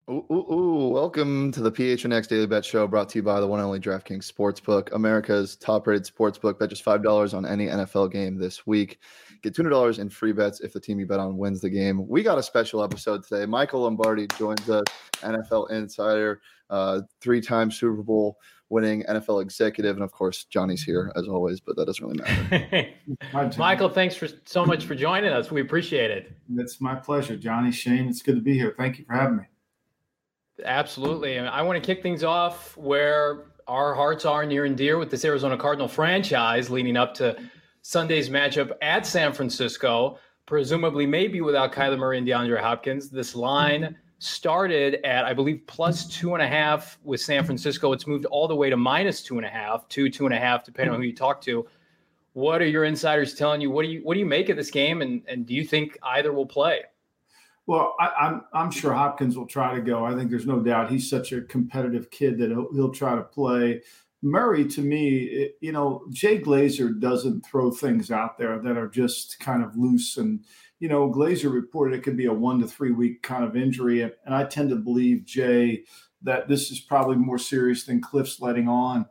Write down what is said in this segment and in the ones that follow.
Welcome to the PHNX Daily Bet Show, brought to you by the one and only DraftKings Sportsbook, America's top-rated sportsbook. Bet just $5 on any NFL game this week. Get $200 in free bets if the team you bet on wins the game. We got a special episode today. Michael Lombardi joins us, NFL insider, three-time Super Bowl winning NFL executive, and of course, Johnny's here as always, but that doesn't really matter. Michael, thanks so much for joining us. We appreciate it. It's my pleasure, Johnny, Shane. It's good to be here. Thank you for having me. Absolutely. And I want to kick things off where our hearts are near and dear with this Arizona Cardinal franchise leading up to Sunday's matchup at San Francisco, presumably maybe without Kyler Murray and DeAndre Hopkins. This line started at, I believe, plus 2.5 with San Francisco. It's moved all the way to minus 2.5, 2.5, depending on who you talk to. What are your insiders telling you? What do you make of this game? And do you think either will play? Well, I'm sure Hopkins will try to go. I think there's no doubt he's such a competitive kid that he'll try to play. Murray, to me, Jay Glazer doesn't throw things out there that are just kind of loose. And, Glazer reported it could be a 1 to 3 week kind of injury. And I tend to believe, Jay, that this is probably more serious than Cliff's letting on.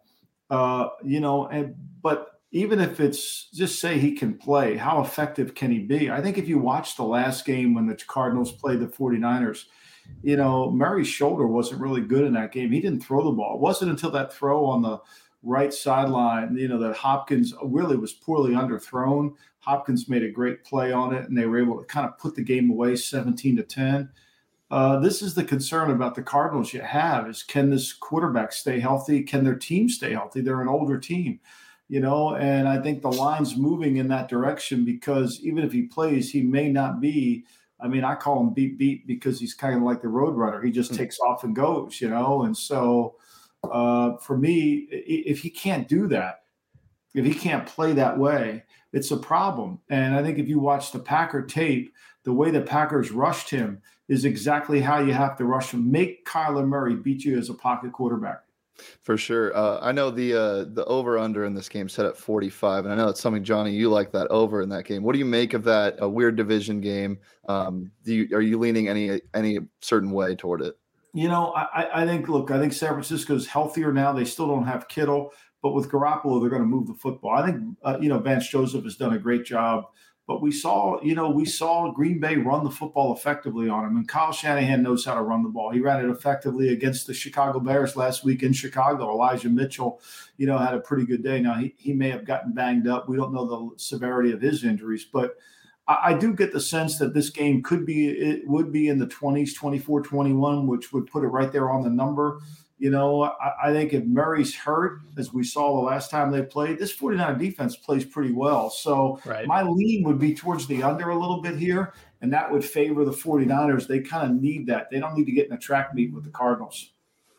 But even if it's just say he can play, how effective can he be? I think if you watch the last game when the Cardinals played the 49ers, Murray's shoulder wasn't really good in that game. He didn't throw the ball. It wasn't until that throw on the right sideline, that Hopkins really was poorly underthrown. Hopkins made a great play on it, and they were able to kind of put the game away 17-10. This is the concern about the Cardinals you have is, can this quarterback stay healthy? Can their team stay healthy? They're an older team. And I think the line's moving in that direction because even if he plays, he may not be. I mean, I call him beat because he's kind of like the road runner. He just takes off and goes, And so for me, if he can't do that, if he can't play that way, it's a problem. And I think if you watch the Packer tape, the way the Packers rushed him is exactly how you have to rush him. Make Kyler Murray beat you as a pocket quarterback. For sure. I know the over-under in this game set at 45, and I know it's something, Johnny, you like that over in that game. What do you make of that? A weird division game. Are you leaning any certain way toward it? I think San Francisco's healthier now. They still don't have Kittle, but with Garoppolo, they're going to move the football. I think, Vance Joseph has done a great job. But we saw Green Bay run the football effectively on him, and Kyle Shanahan knows how to run the ball. He ran it effectively against the Chicago Bears last week in Chicago. Elijah Mitchell, had a pretty good day. Now, he may have gotten banged up. We don't know the severity of his injuries, but I do get the sense that this game would be in the 20s, 24-21, which would put it right there on the number. I think if Murray's hurt, as we saw the last time they played, this 49er defense plays pretty well. So My lean would be towards the under a little bit here, and that would favor the 49ers. They kind of need that. They don't need to get in a track meet with the Cardinals.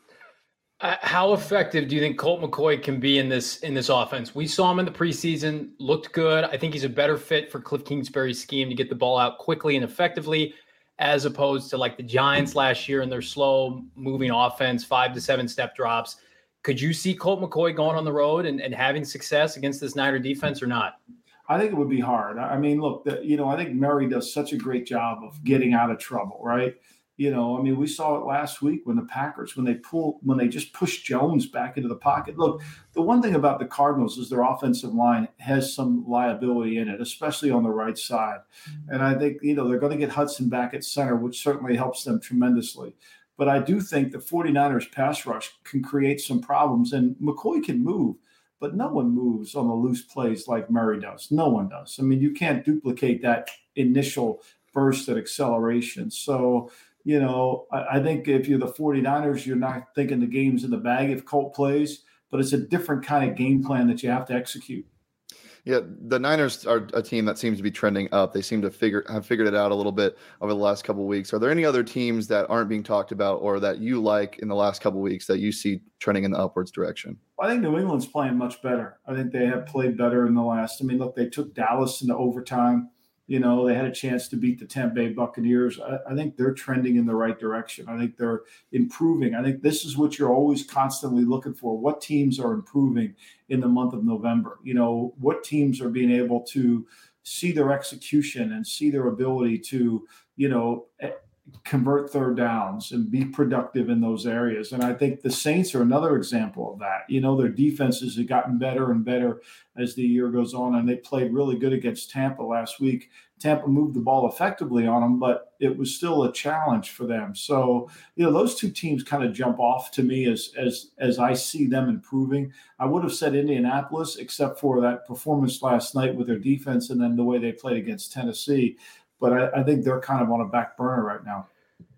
How effective do you think Colt McCoy can be in this offense? We saw him in the preseason, looked good. I think he's a better fit for Cliff Kingsbury's scheme to get the ball out quickly and effectively, as opposed to like the Giants last year and their slow moving offense, 5 to 7 step drops. Could you see Colt McCoy going on the road and having success against this Niner defense or not? I think it would be hard. I mean, look, I think Murray does such a great job of getting out of trouble, right? We saw it last week when the Packers, when they just pushed Jones back into the pocket. Look, the one thing about the Cardinals is their offensive line has some liability in it, especially on the right side. And I think, they're going to get Hudson back at center, which certainly helps them tremendously. But I do think the 49ers pass rush can create some problems, and McCoy can move, but no one moves on the loose plays like Murray does. No one does. I mean, you can't duplicate that initial burst at acceleration. So, I think if you're the 49ers, you're not thinking the game's in the bag if Colt plays, but it's a different kind of game plan that you have to execute. Yeah, the Niners are a team that seems to be trending up. They seem to have figured it out a little bit over the last couple of weeks. Are there any other teams that aren't being talked about or that you like in the last couple of weeks that you see trending in the upwards direction? I think New England's playing much better. I think they have played better in the last. Look, they took Dallas into overtime. They had a chance to beat the Tampa Bay Buccaneers. I think they're trending in the right direction. I think they're improving. I think this is what you're always constantly looking for. What teams are improving in the month of November? What teams are being able to see their execution and see their ability to, convert third downs and be productive in those areas. And I think the Saints are another example of that. Their defenses have gotten better and better as the year goes on, and they played really good against Tampa last week. Tampa moved the ball effectively on them, but it was still a challenge for them. So, those two teams kind of jump off to me as I see them improving. I would have said Indianapolis, except for that performance last night with their defense and then the way they played against Tennessee. But I think they're kind of on a back burner right now.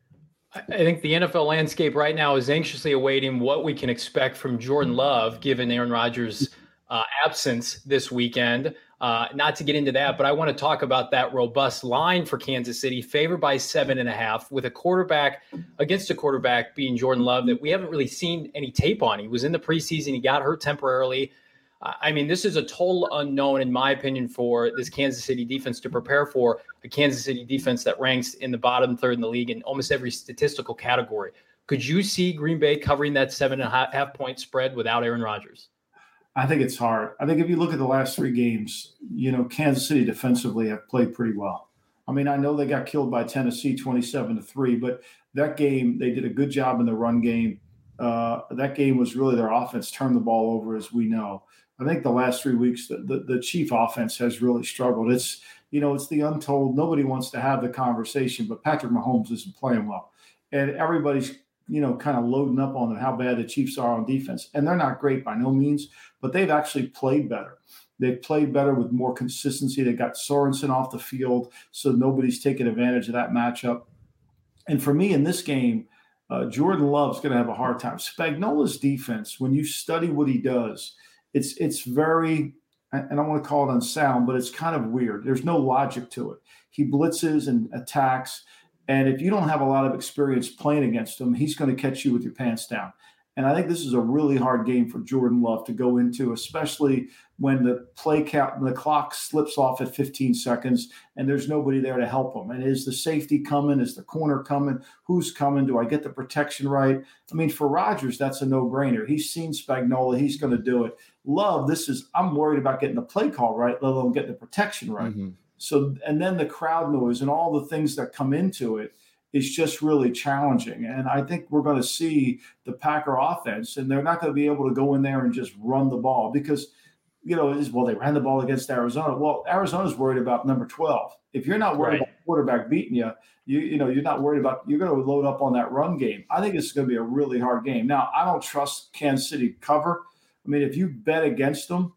I think the NFL landscape right now is anxiously awaiting what we can expect from Jordan Love, given Aaron Rodgers' absence this weekend. Not to get into that, but I want to talk about that robust line for Kansas City, favored by 7.5, with against a quarterback being Jordan Love that we haven't really seen any tape on. He was in the preseason. He got hurt temporarily. This is a total unknown, in my opinion, for this Kansas City defense to prepare for, a Kansas City defense that ranks in the bottom third in the league in almost every statistical category. Could you see Green Bay covering that 7.5 point spread without Aaron Rodgers? I think it's hard. I think if you look at the last 3 games, Kansas City defensively have played pretty well. I know they got killed by Tennessee 27-3, but that game, they did a good job in the run game. That game was really their offense turned the ball over, as we know. I think the last 3 weeks, the Chief offense has really struggled. It's the untold. Nobody wants to have the conversation, but Patrick Mahomes isn't playing well. And everybody's, kind of loading up on how bad the Chiefs are on defense. And they're not great by no means, but they've actually played better. They've played better with more consistency. They got Sorensen off the field, so nobody's taking advantage of that matchup. And for me in this game, Jordan Love's going to have a hard time. Spagnuolo's defense, when you study what he does, it's very, I don't want to call it unsound, but it's kind of weird. There's no logic to it. He blitzes and attacks, and if you don't have a lot of experience playing against him, he's going to catch you with your pants down. And I think this is a really hard game for Jordan Love to go into, especially when the play count and the clock slips off at 15 seconds and there's nobody there to help him. And is the safety coming? Is the corner coming? Who's coming? Do I get the protection right? For Rodgers, that's a no-brainer. He's seen Spagnuolo. He's going to do it. Love, I'm worried about getting the play call right, let alone getting the protection right. Mm-hmm. So, and then the crowd noise and all the things that come into it is just really challenging. And I think we're going to see the Packer offense, and they're not going to be able to go in there and just run the ball because, they ran the ball against Arizona. Well, Arizona's worried about number 12. If you're not worried about the quarterback beating you, you're not worried about, you're going to load up on that run game. I think it's going to be a really hard game. Now, I don't trust Kansas City to cover. If you bet against them,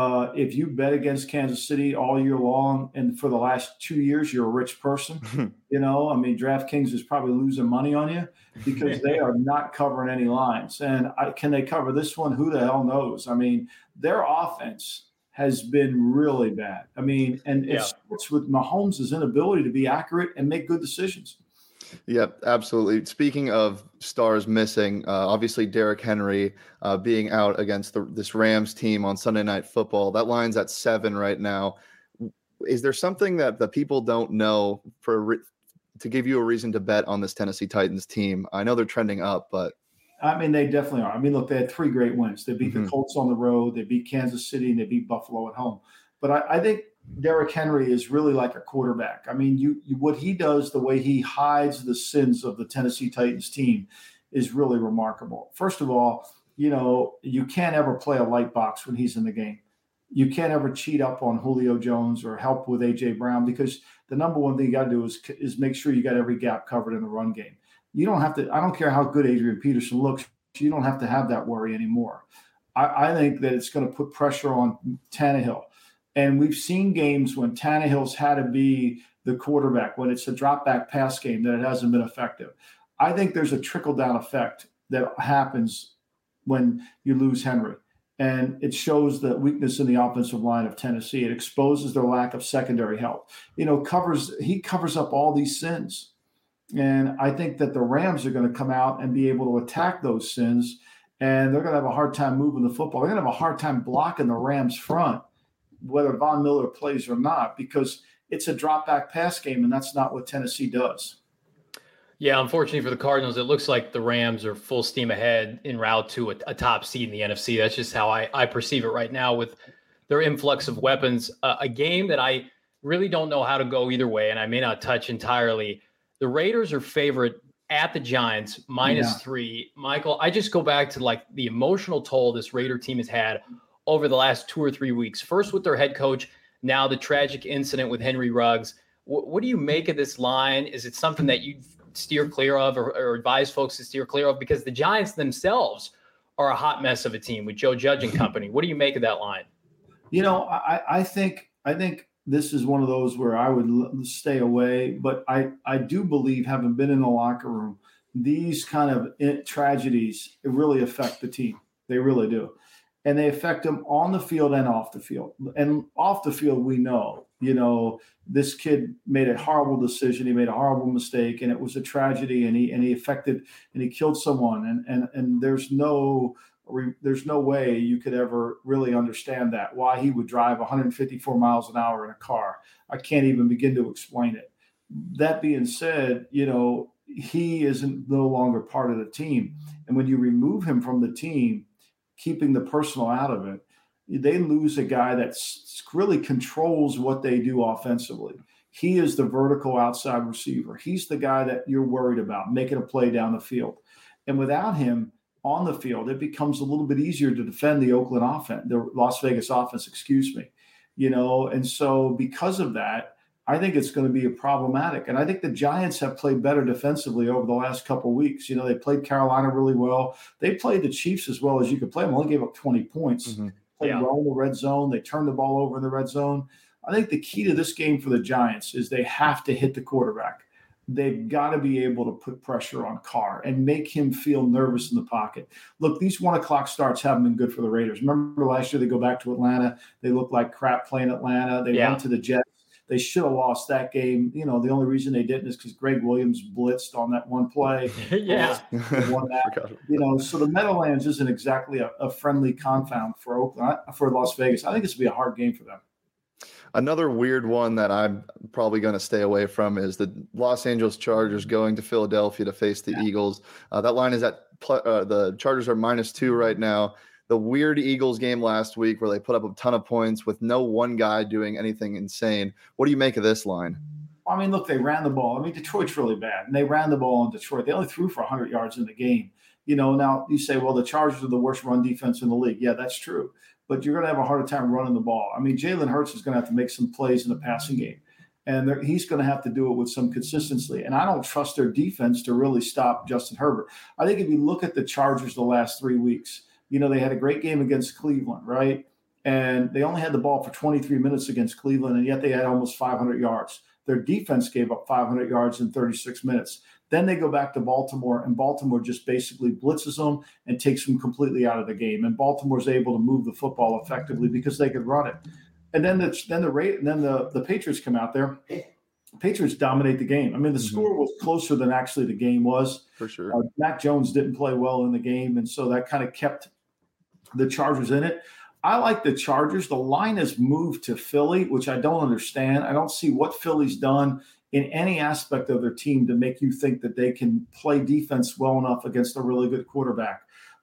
if you bet against Kansas City all year long and for the last 2 years, you're a rich person. DraftKings is probably losing money on you because they are not covering any lines. And can they cover this one? Who the hell knows? Their offense has been really bad. It starts with Mahomes' inability to be accurate and make good decisions. Yep, absolutely. Speaking of stars missing, obviously Derrick Henry being out against this Rams team on Sunday Night Football. That line's at 7 right now. Is there something that the people don't know to give you a reason to bet on this Tennessee Titans team? I know they're trending up, but they definitely are. Look, they had 3 great wins. They beat the Colts on the road, they beat Kansas City, and they beat Buffalo at home. But I think Derrick Henry is really like a quarterback. What he does, the way he hides the sins of the Tennessee Titans team is really remarkable. First of all, you can't ever play a light box when he's in the game. You can't ever cheat up on Julio Jones or help with A.J. Brown because the number one thing you got to do is make sure you got every gap covered in the run game. You don't have to – I don't care how good Adrian Peterson looks. You don't have to have that worry anymore. I think that it's going to put pressure on Tannehill. And we've seen games when Tannehill's had to be the quarterback, when it's a drop-back pass game, that it hasn't been effective. I think there's a trickle-down effect that happens when you lose Henry. And it shows the weakness in the offensive line of Tennessee. It exposes their lack of secondary help. He covers up all these sins. And I think that the Rams are going to come out and be able to attack those sins, and they're going to have a hard time moving the football. They're going to have a hard time blocking the Rams front, whether Von Miller plays or not, because it's a drop-back pass game, and that's not what Tennessee does. Yeah, unfortunately for the Cardinals, it looks like the Rams are full steam ahead en route to a top seed in the NFC. That's just how I perceive it right now with their influx of weapons. A game that I really don't know how to go either way, and I may not touch entirely. The Raiders are favorite at the Giants, -3. Michael, I just go back to like the emotional toll this Raider team has had over the last 2 or 3 weeks. First with their head coach, now the tragic incident with Henry Ruggs. What do you make of this line? Is it something that you steer clear of or advise folks to steer clear of? Because the Giants themselves are a hot mess of a team with Joe Judge and company. What do you make of that line? I think this is one of those where I would stay away, but I do believe, having been in the locker room, these kind of tragedies really affect the team. They really do. And they affect them on the field and off the field. And off the field, we know, this kid made a horrible decision. He made a horrible mistake, and it was a tragedy, and he affected and he killed someone. And there's no way you could ever really understand that, why he would drive 154 miles an hour in a car. I can't even begin to explain it. That being said, he isn't no longer part of the team. And when you remove him from the team, keeping the personal out of it, they lose a guy that really controls what they do offensively. He is the vertical outside receiver. He's the guy that you're worried about making a play down the field. And without him on the field, it becomes a little bit easier to defend the Las Vegas offense, and so because of that, I think it's going to be problematic. And I think the Giants have played better defensively over the last couple of weeks. They played Carolina really well. They played the Chiefs as well as you could play them. Only gave up 20 points. Mm-hmm. Played well in the red zone. They turned the ball over in the red zone. I think the key to this game for the Giants is they have to hit the quarterback. They've got to be able to put pressure on Carr and make him feel nervous in the pocket. Look, these 1:00 starts haven't been good for the Raiders. Remember last year they go back to Atlanta. They looked like crap playing Atlanta. They went to the Jets. They should have lost that game. The only reason they didn't is because Greg Williams blitzed on that one play. Won that. So the Meadowlands isn't exactly a friendly confound for Las Vegas. I think this will be a hard game for them. Another weird one that I'm probably going to stay away from is the Los Angeles Chargers going to Philadelphia to face the Eagles. That line is at the Chargers are -2 right now. The weird Eagles game last week where they put up a ton of points with no one guy doing anything insane. What do you make of this line? I mean, look, they ran the ball. I mean, Detroit's really bad, and they ran the ball in Detroit. They only threw for 100 yards in the game. Now you say, well, the Chargers are the worst run defense in the league. Yeah, that's true. But you're going to have a harder time running the ball. I mean, Jalen Hurts is going to have to make some plays in the passing game, and he's going to have to do it with some consistency. And I don't trust their defense to really stop Justin Herbert. I think if you look at the Chargers the last 3 weeks, they had a great game against Cleveland, right? And they only had the ball for 23 minutes against Cleveland, and yet they had almost 500 yards. Their defense gave up 500 yards in 36 minutes. Then they go back to Baltimore, and Baltimore just basically blitzes them and takes them completely out of the game. And Baltimore's able to move the football effectively because they could run it. And then the Patriots come out there. Patriots dominate the game. I mean, the score was closer than actually the game was. For sure. Mac Jones didn't play well in the game, and so that kind of kept the Chargers in it. I like the Chargers. The line has moved to Philly, which I don't understand. I don't see what Philly's done in any aspect of their team to make you think that they can play defense well enough against a really good quarterback.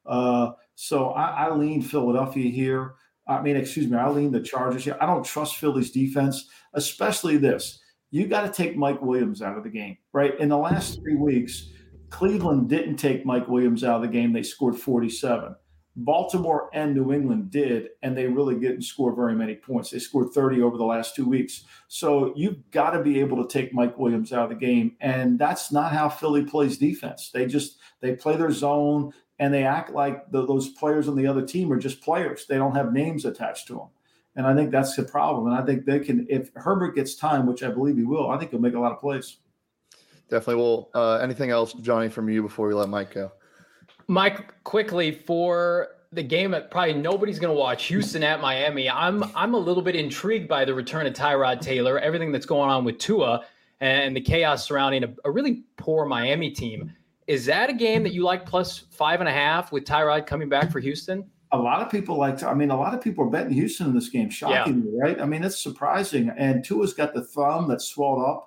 So I lean Philadelphia here. I lean the Chargers here. I don't trust Philly's defense, especially this. You got to take Mike Williams out of the game, right? In the last 3 weeks, Cleveland didn't take Mike Williams out of the game. They scored 47. Baltimore and New England did, and they really didn't score very many points. They scored 30 over the last 2 weeks. So you've got to be able to take Mike Williams out of the game, and that's not how Philly plays defense. They play their zone, and they act like those players on the other team are just players. They don't have names attached to them. And I think that's the problem. And I think they can, if Herbert gets time, which I believe he will, I think he'll make a lot of plays. Definitely will. Anything else, Johnny, from you before we let Mike go? Mike, quickly, for the game that probably nobody's going to watch, Houston at Miami, I'm a little bit intrigued by the return of Tyrod Taylor, everything that's going on with Tua and the chaos surrounding a really poor Miami team. Is that a game that you like +5.5 with Tyrod coming back for Houston? A lot of people are betting Houston in this game, shockingly, right? I mean, it's surprising. And Tua's got the thumb that's swelled up.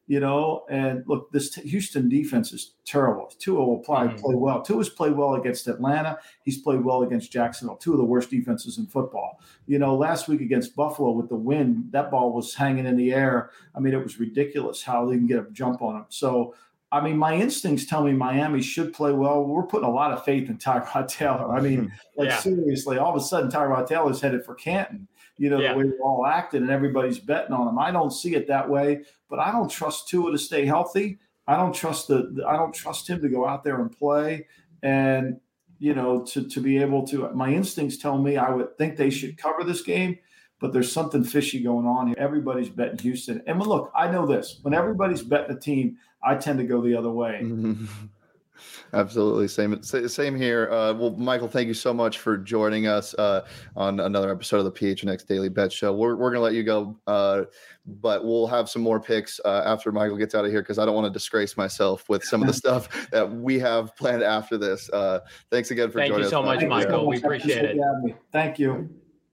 And look, this Houston defense is terrible. Tua will probably play well. Tua's played well against Atlanta. He's played well against Jacksonville, two of the worst defenses in football. Last week against Buffalo with the wind, that ball was hanging in the air. I mean, it was ridiculous how they can get a jump on him. So, I mean, my instincts tell me Miami should play well. We're putting a lot of faith in Tyrod Taylor. I mean, seriously, all of a sudden Tyrod Taylor's headed for Canton. The way we're all acting and everybody's betting on him. I don't see it that way, but I don't trust Tua to stay healthy. I don't trust I don't trust him to go out there and play and, to be able to. My instincts tell me I would think they should cover this game, but there's something fishy going on here. Everybody's betting Houston. And look, I know this. When everybody's betting a team, I tend to go the other way. Absolutely. Same here. Well, Michael, thank you so much for joining us on another episode of the PHNX Daily Bet Show. We're going to let you go, but we'll have some more picks after Michael gets out of here because I don't want to disgrace myself with some of the stuff that we have planned after this. Thanks again for joining us. Thank you so much, Michael. We appreciate it. Thank you.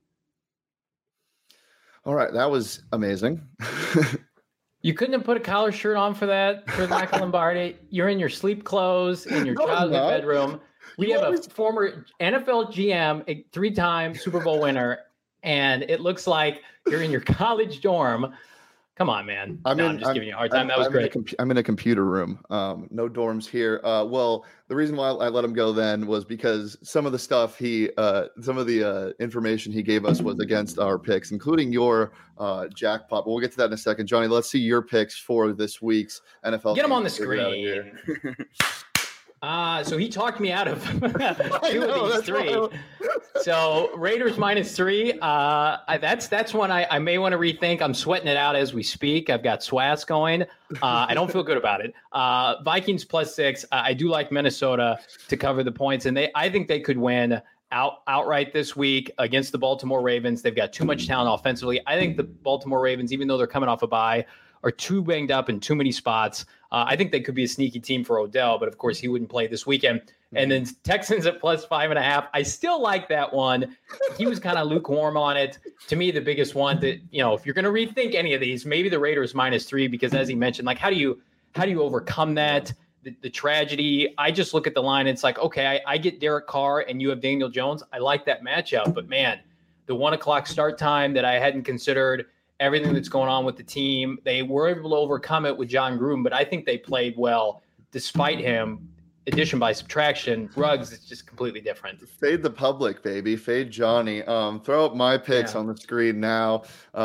All right. That was amazing. You couldn't have put a collar shirt on for that, for Michael Lombardi. You're in your sleep clothes in your childhood bedroom. We have a former NFL GM, a 3-time Super Bowl winner, and it looks like you're in your college dorm. Come on, man. I'm just giving you a hard time. That was great. I'm in a computer room. No dorms here. Well, the reason why I let him go then was because some of the stuff some of the information he gave us was against our picks, including your jackpot. But we'll get to that in a second. Johnny, let's see your picks for this week's NFL. Get them on the screen. So he talked me out of two of these three. So Raiders -3. That's one I may want to rethink. I'm sweating it out as we speak. I've got SWAS going. I don't feel good about it. Vikings +6. I do like Minnesota to cover the points, and I think they could win outright this week against the Baltimore Ravens. They've got too much talent offensively. I think the Baltimore Ravens, even though they're coming off a bye, are too banged up in too many spots. I think they could be a sneaky team for Odell, but of course he wouldn't play this weekend. And then Texans at +5.5. I still like that one. He was kind of lukewarm on it. To me, the biggest one that, if you're going to rethink any of these, maybe the Raiders -3, because as he mentioned, like, how do you overcome that? The tragedy. I just look at the line and it's like, okay, I get Derek Carr and you have Daniel Jones. I like that matchup, but man, the 1:00 start time that I hadn't considered, everything that's going on with the team, they were able to overcome it with John Gruden, but I think they played well despite him. Addition by subtraction, Ruggs is just completely different. Fade the public, baby. Fade Johnny. Throw up my picks on the screen now.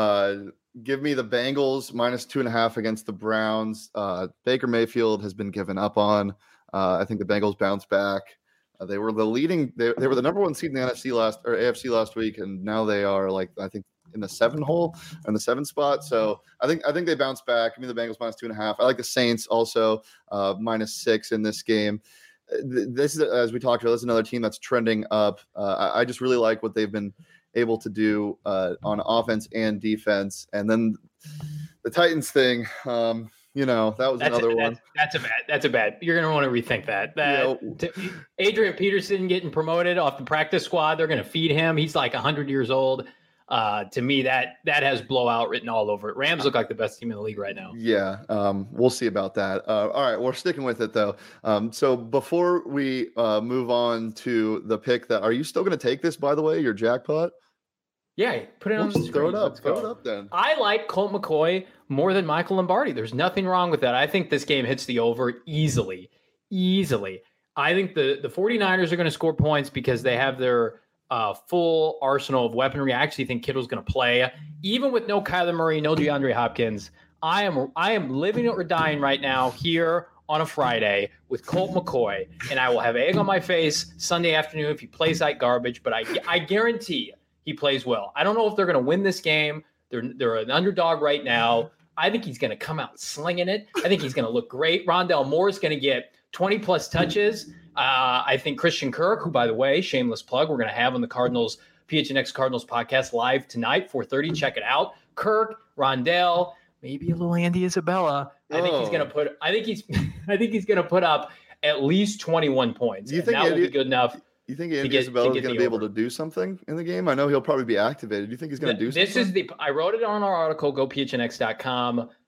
Give me the Bengals -2.5 against the Browns. Baker Mayfield has been given up on. I think the Bengals bounce back. They were they were the number 1 seed in the AFC last week, and now they are I think in the 7th spot. So I think they bounce back. Give me the Bengals -2.5. I like the Saints also -6 in this game. This is, as we talked about, this is another team that's trending up. I just really like what they've been able to do on offense and defense. And then the Titans thing, that was another one. That's a bad. You're going to want to rethink that. Adrian Peterson getting promoted off the practice squad. They're going to feed him. He's like 100 years old. To me, that has blowout written all over it. Rams look like the best team in the league right now. Yeah, we'll see about that. All right, we're sticking with it though. So before we move on to the pick, are you still going to take this? By the way, your jackpot. Yeah, put it on the screen. Throw it up. Throw it up then. I like Colt McCoy more than Michael Lombardi. There's nothing wrong with that. I think this game hits the over easily. I think the 49ers are going to score points because they have their full arsenal of weaponry. I actually think Kittle's going to play. Even with no Kyler Murray, no DeAndre Hopkins, I am living or dying right now here on a Friday with Colt McCoy, and I will have egg on my face Sunday afternoon if he plays like garbage, but I guarantee he plays well. I don't know if they're going to win this game. They're an underdog right now. I think he's going to come out slinging it. I think he's going to look great. Rondell Moore is going to get 20-plus touches. I think Christian Kirk, who, by the way, shameless plug, we're going to have on the PHNX Cardinals podcast live tonight, 4:30. Check it out. Kirk, Rondell, maybe a little Andy Isabella. I think he's going to put up at least 21 points. You think that will be good enough? You think Andy Isabella is going to be able to do something in the game? I know he'll probably be activated. Do you think he's going to do something? I wrote it on our article, gophnx.com.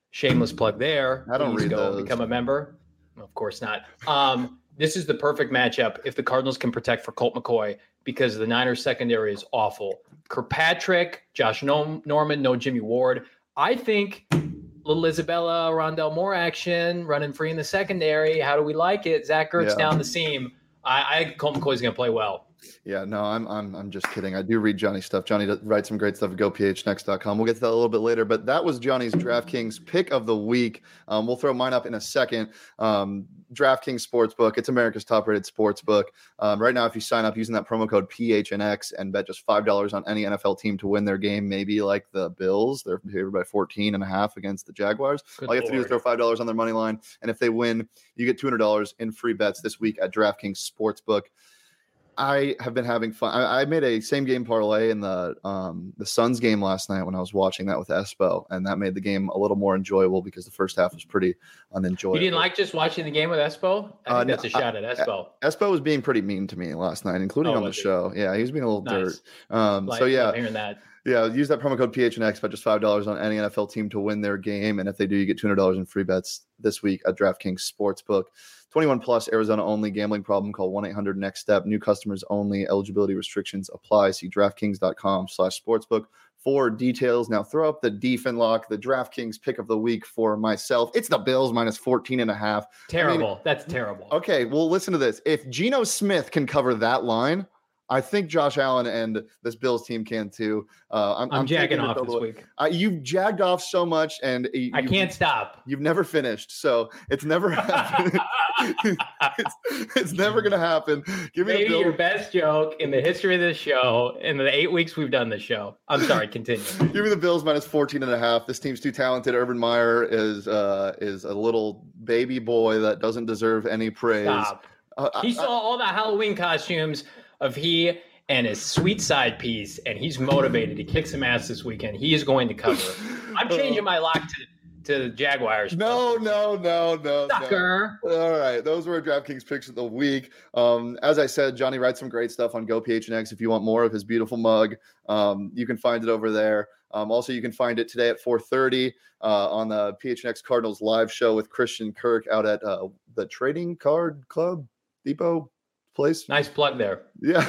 Shameless plug there. I don't Please read go those. become a member. Of course not. This is the perfect matchup if the Cardinals can protect for Colt McCoy because the Niners secondary is awful. Kirkpatrick, Josh Norman, no Jimmy Ward. I think little Isabella Rondell Moore action, running free in the secondary. How do we like it? Zach Ertz down the seam. I think Colt McCoy's going to play well. Yeah, no, I'm just kidding. I do read Johnny's stuff. Johnny writes some great stuff at gophnx.com. We'll get to that a little bit later, but that was Johnny's DraftKings pick of the week. We'll throw mine up in a second. DraftKings Sportsbook. It's America's top-rated sportsbook. Right now, if you sign up using that promo code PHNX and bet just $5 on any NFL team to win their game, maybe like the Bills, they're favored by 14.5 against the Jaguars. All you have to do is throw $5 on their money line, and if they win, you get $200 in free bets this week at DraftKings Sportsbook. I have been having fun. I made a same game parlay in the Suns game last night when I was watching that with Espo, and that made the game a little more enjoyable because the first half was pretty unenjoyable. You didn't like just watching the game with Espo? I think that's a shot at Espo. Espo was being pretty mean to me last night, including on the show. Yeah, he was being a little dirt. So yeah, hearing that. Yeah, use that promo code PHNX, bet just $5 on any NFL team to win their game. And if they do, you get $200 in free bets this week at DraftKings Sportsbook. 21 plus, Arizona only, gambling problem, call 1-800-NEXT-STEP. New customers only, eligibility restrictions apply. See DraftKings.com/sportsbook for details. Now throw up the DFinlock, the DraftKings pick of the week for myself. It's the Bills minus 14.5. Terrible. That's terrible. Okay, well, listen to this. If Geno Smith can cover that line, I think Josh Allen and this Bills team can too. I'm jagging off this week. You've jagged off so much, and I can't stop. You've never finished, so it's never happened. it's never going to happen. Give me maybe your best joke in the history of this show in the 8 weeks we've done this show. I'm sorry, continue. Give me the Bills minus 14.5. This team's too talented. Urban Meyer is a little baby boy that doesn't deserve any praise. Stop. He saw all the Halloween costumes of he and his sweet side piece, and he's motivated to kick some ass this weekend. He is going to cover. I'm changing my lock to the Jaguars. No. Sucker. No. All right. Those were our DraftKings picks of the week. As I said, Johnny writes some great stuff on GoPHNX. If you want more of his beautiful mug, you can find it over there. Also, you can find it today at 4:30 on the PHNX Cardinals live show with Christian Kirk out at the Trading Card Club Depot place. Nice plug there. Yeah.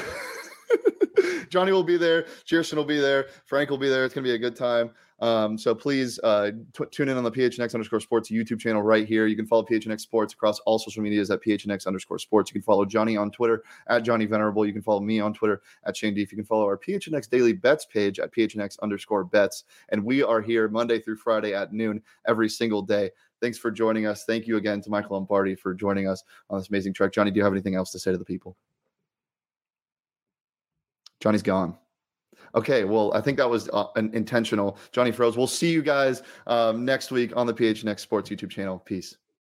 Johnny will be there. Cheerson will be there. Frank will be there. It's going to be a good time. So please tune in on the PHNX_sports YouTube channel right here. You can follow PHNX Sports across all social medias at PHNX_sports. You can follow Johnny on Twitter at Johnny Venerable. You can follow me on Twitter at Shane Deef. You can follow our PHNX Daily Bets page at PHNX_bets. And we are here Monday through Friday at noon every single day. Thanks for joining us. Thank you again to Michael Lombardi for joining us on this amazing trek. Johnny, do you have anything else to say to the people? Johnny's gone. Okay, well, I think that was intentional. Johnny froze. We'll see you guys next week on the PHNX Sports YouTube channel. Peace.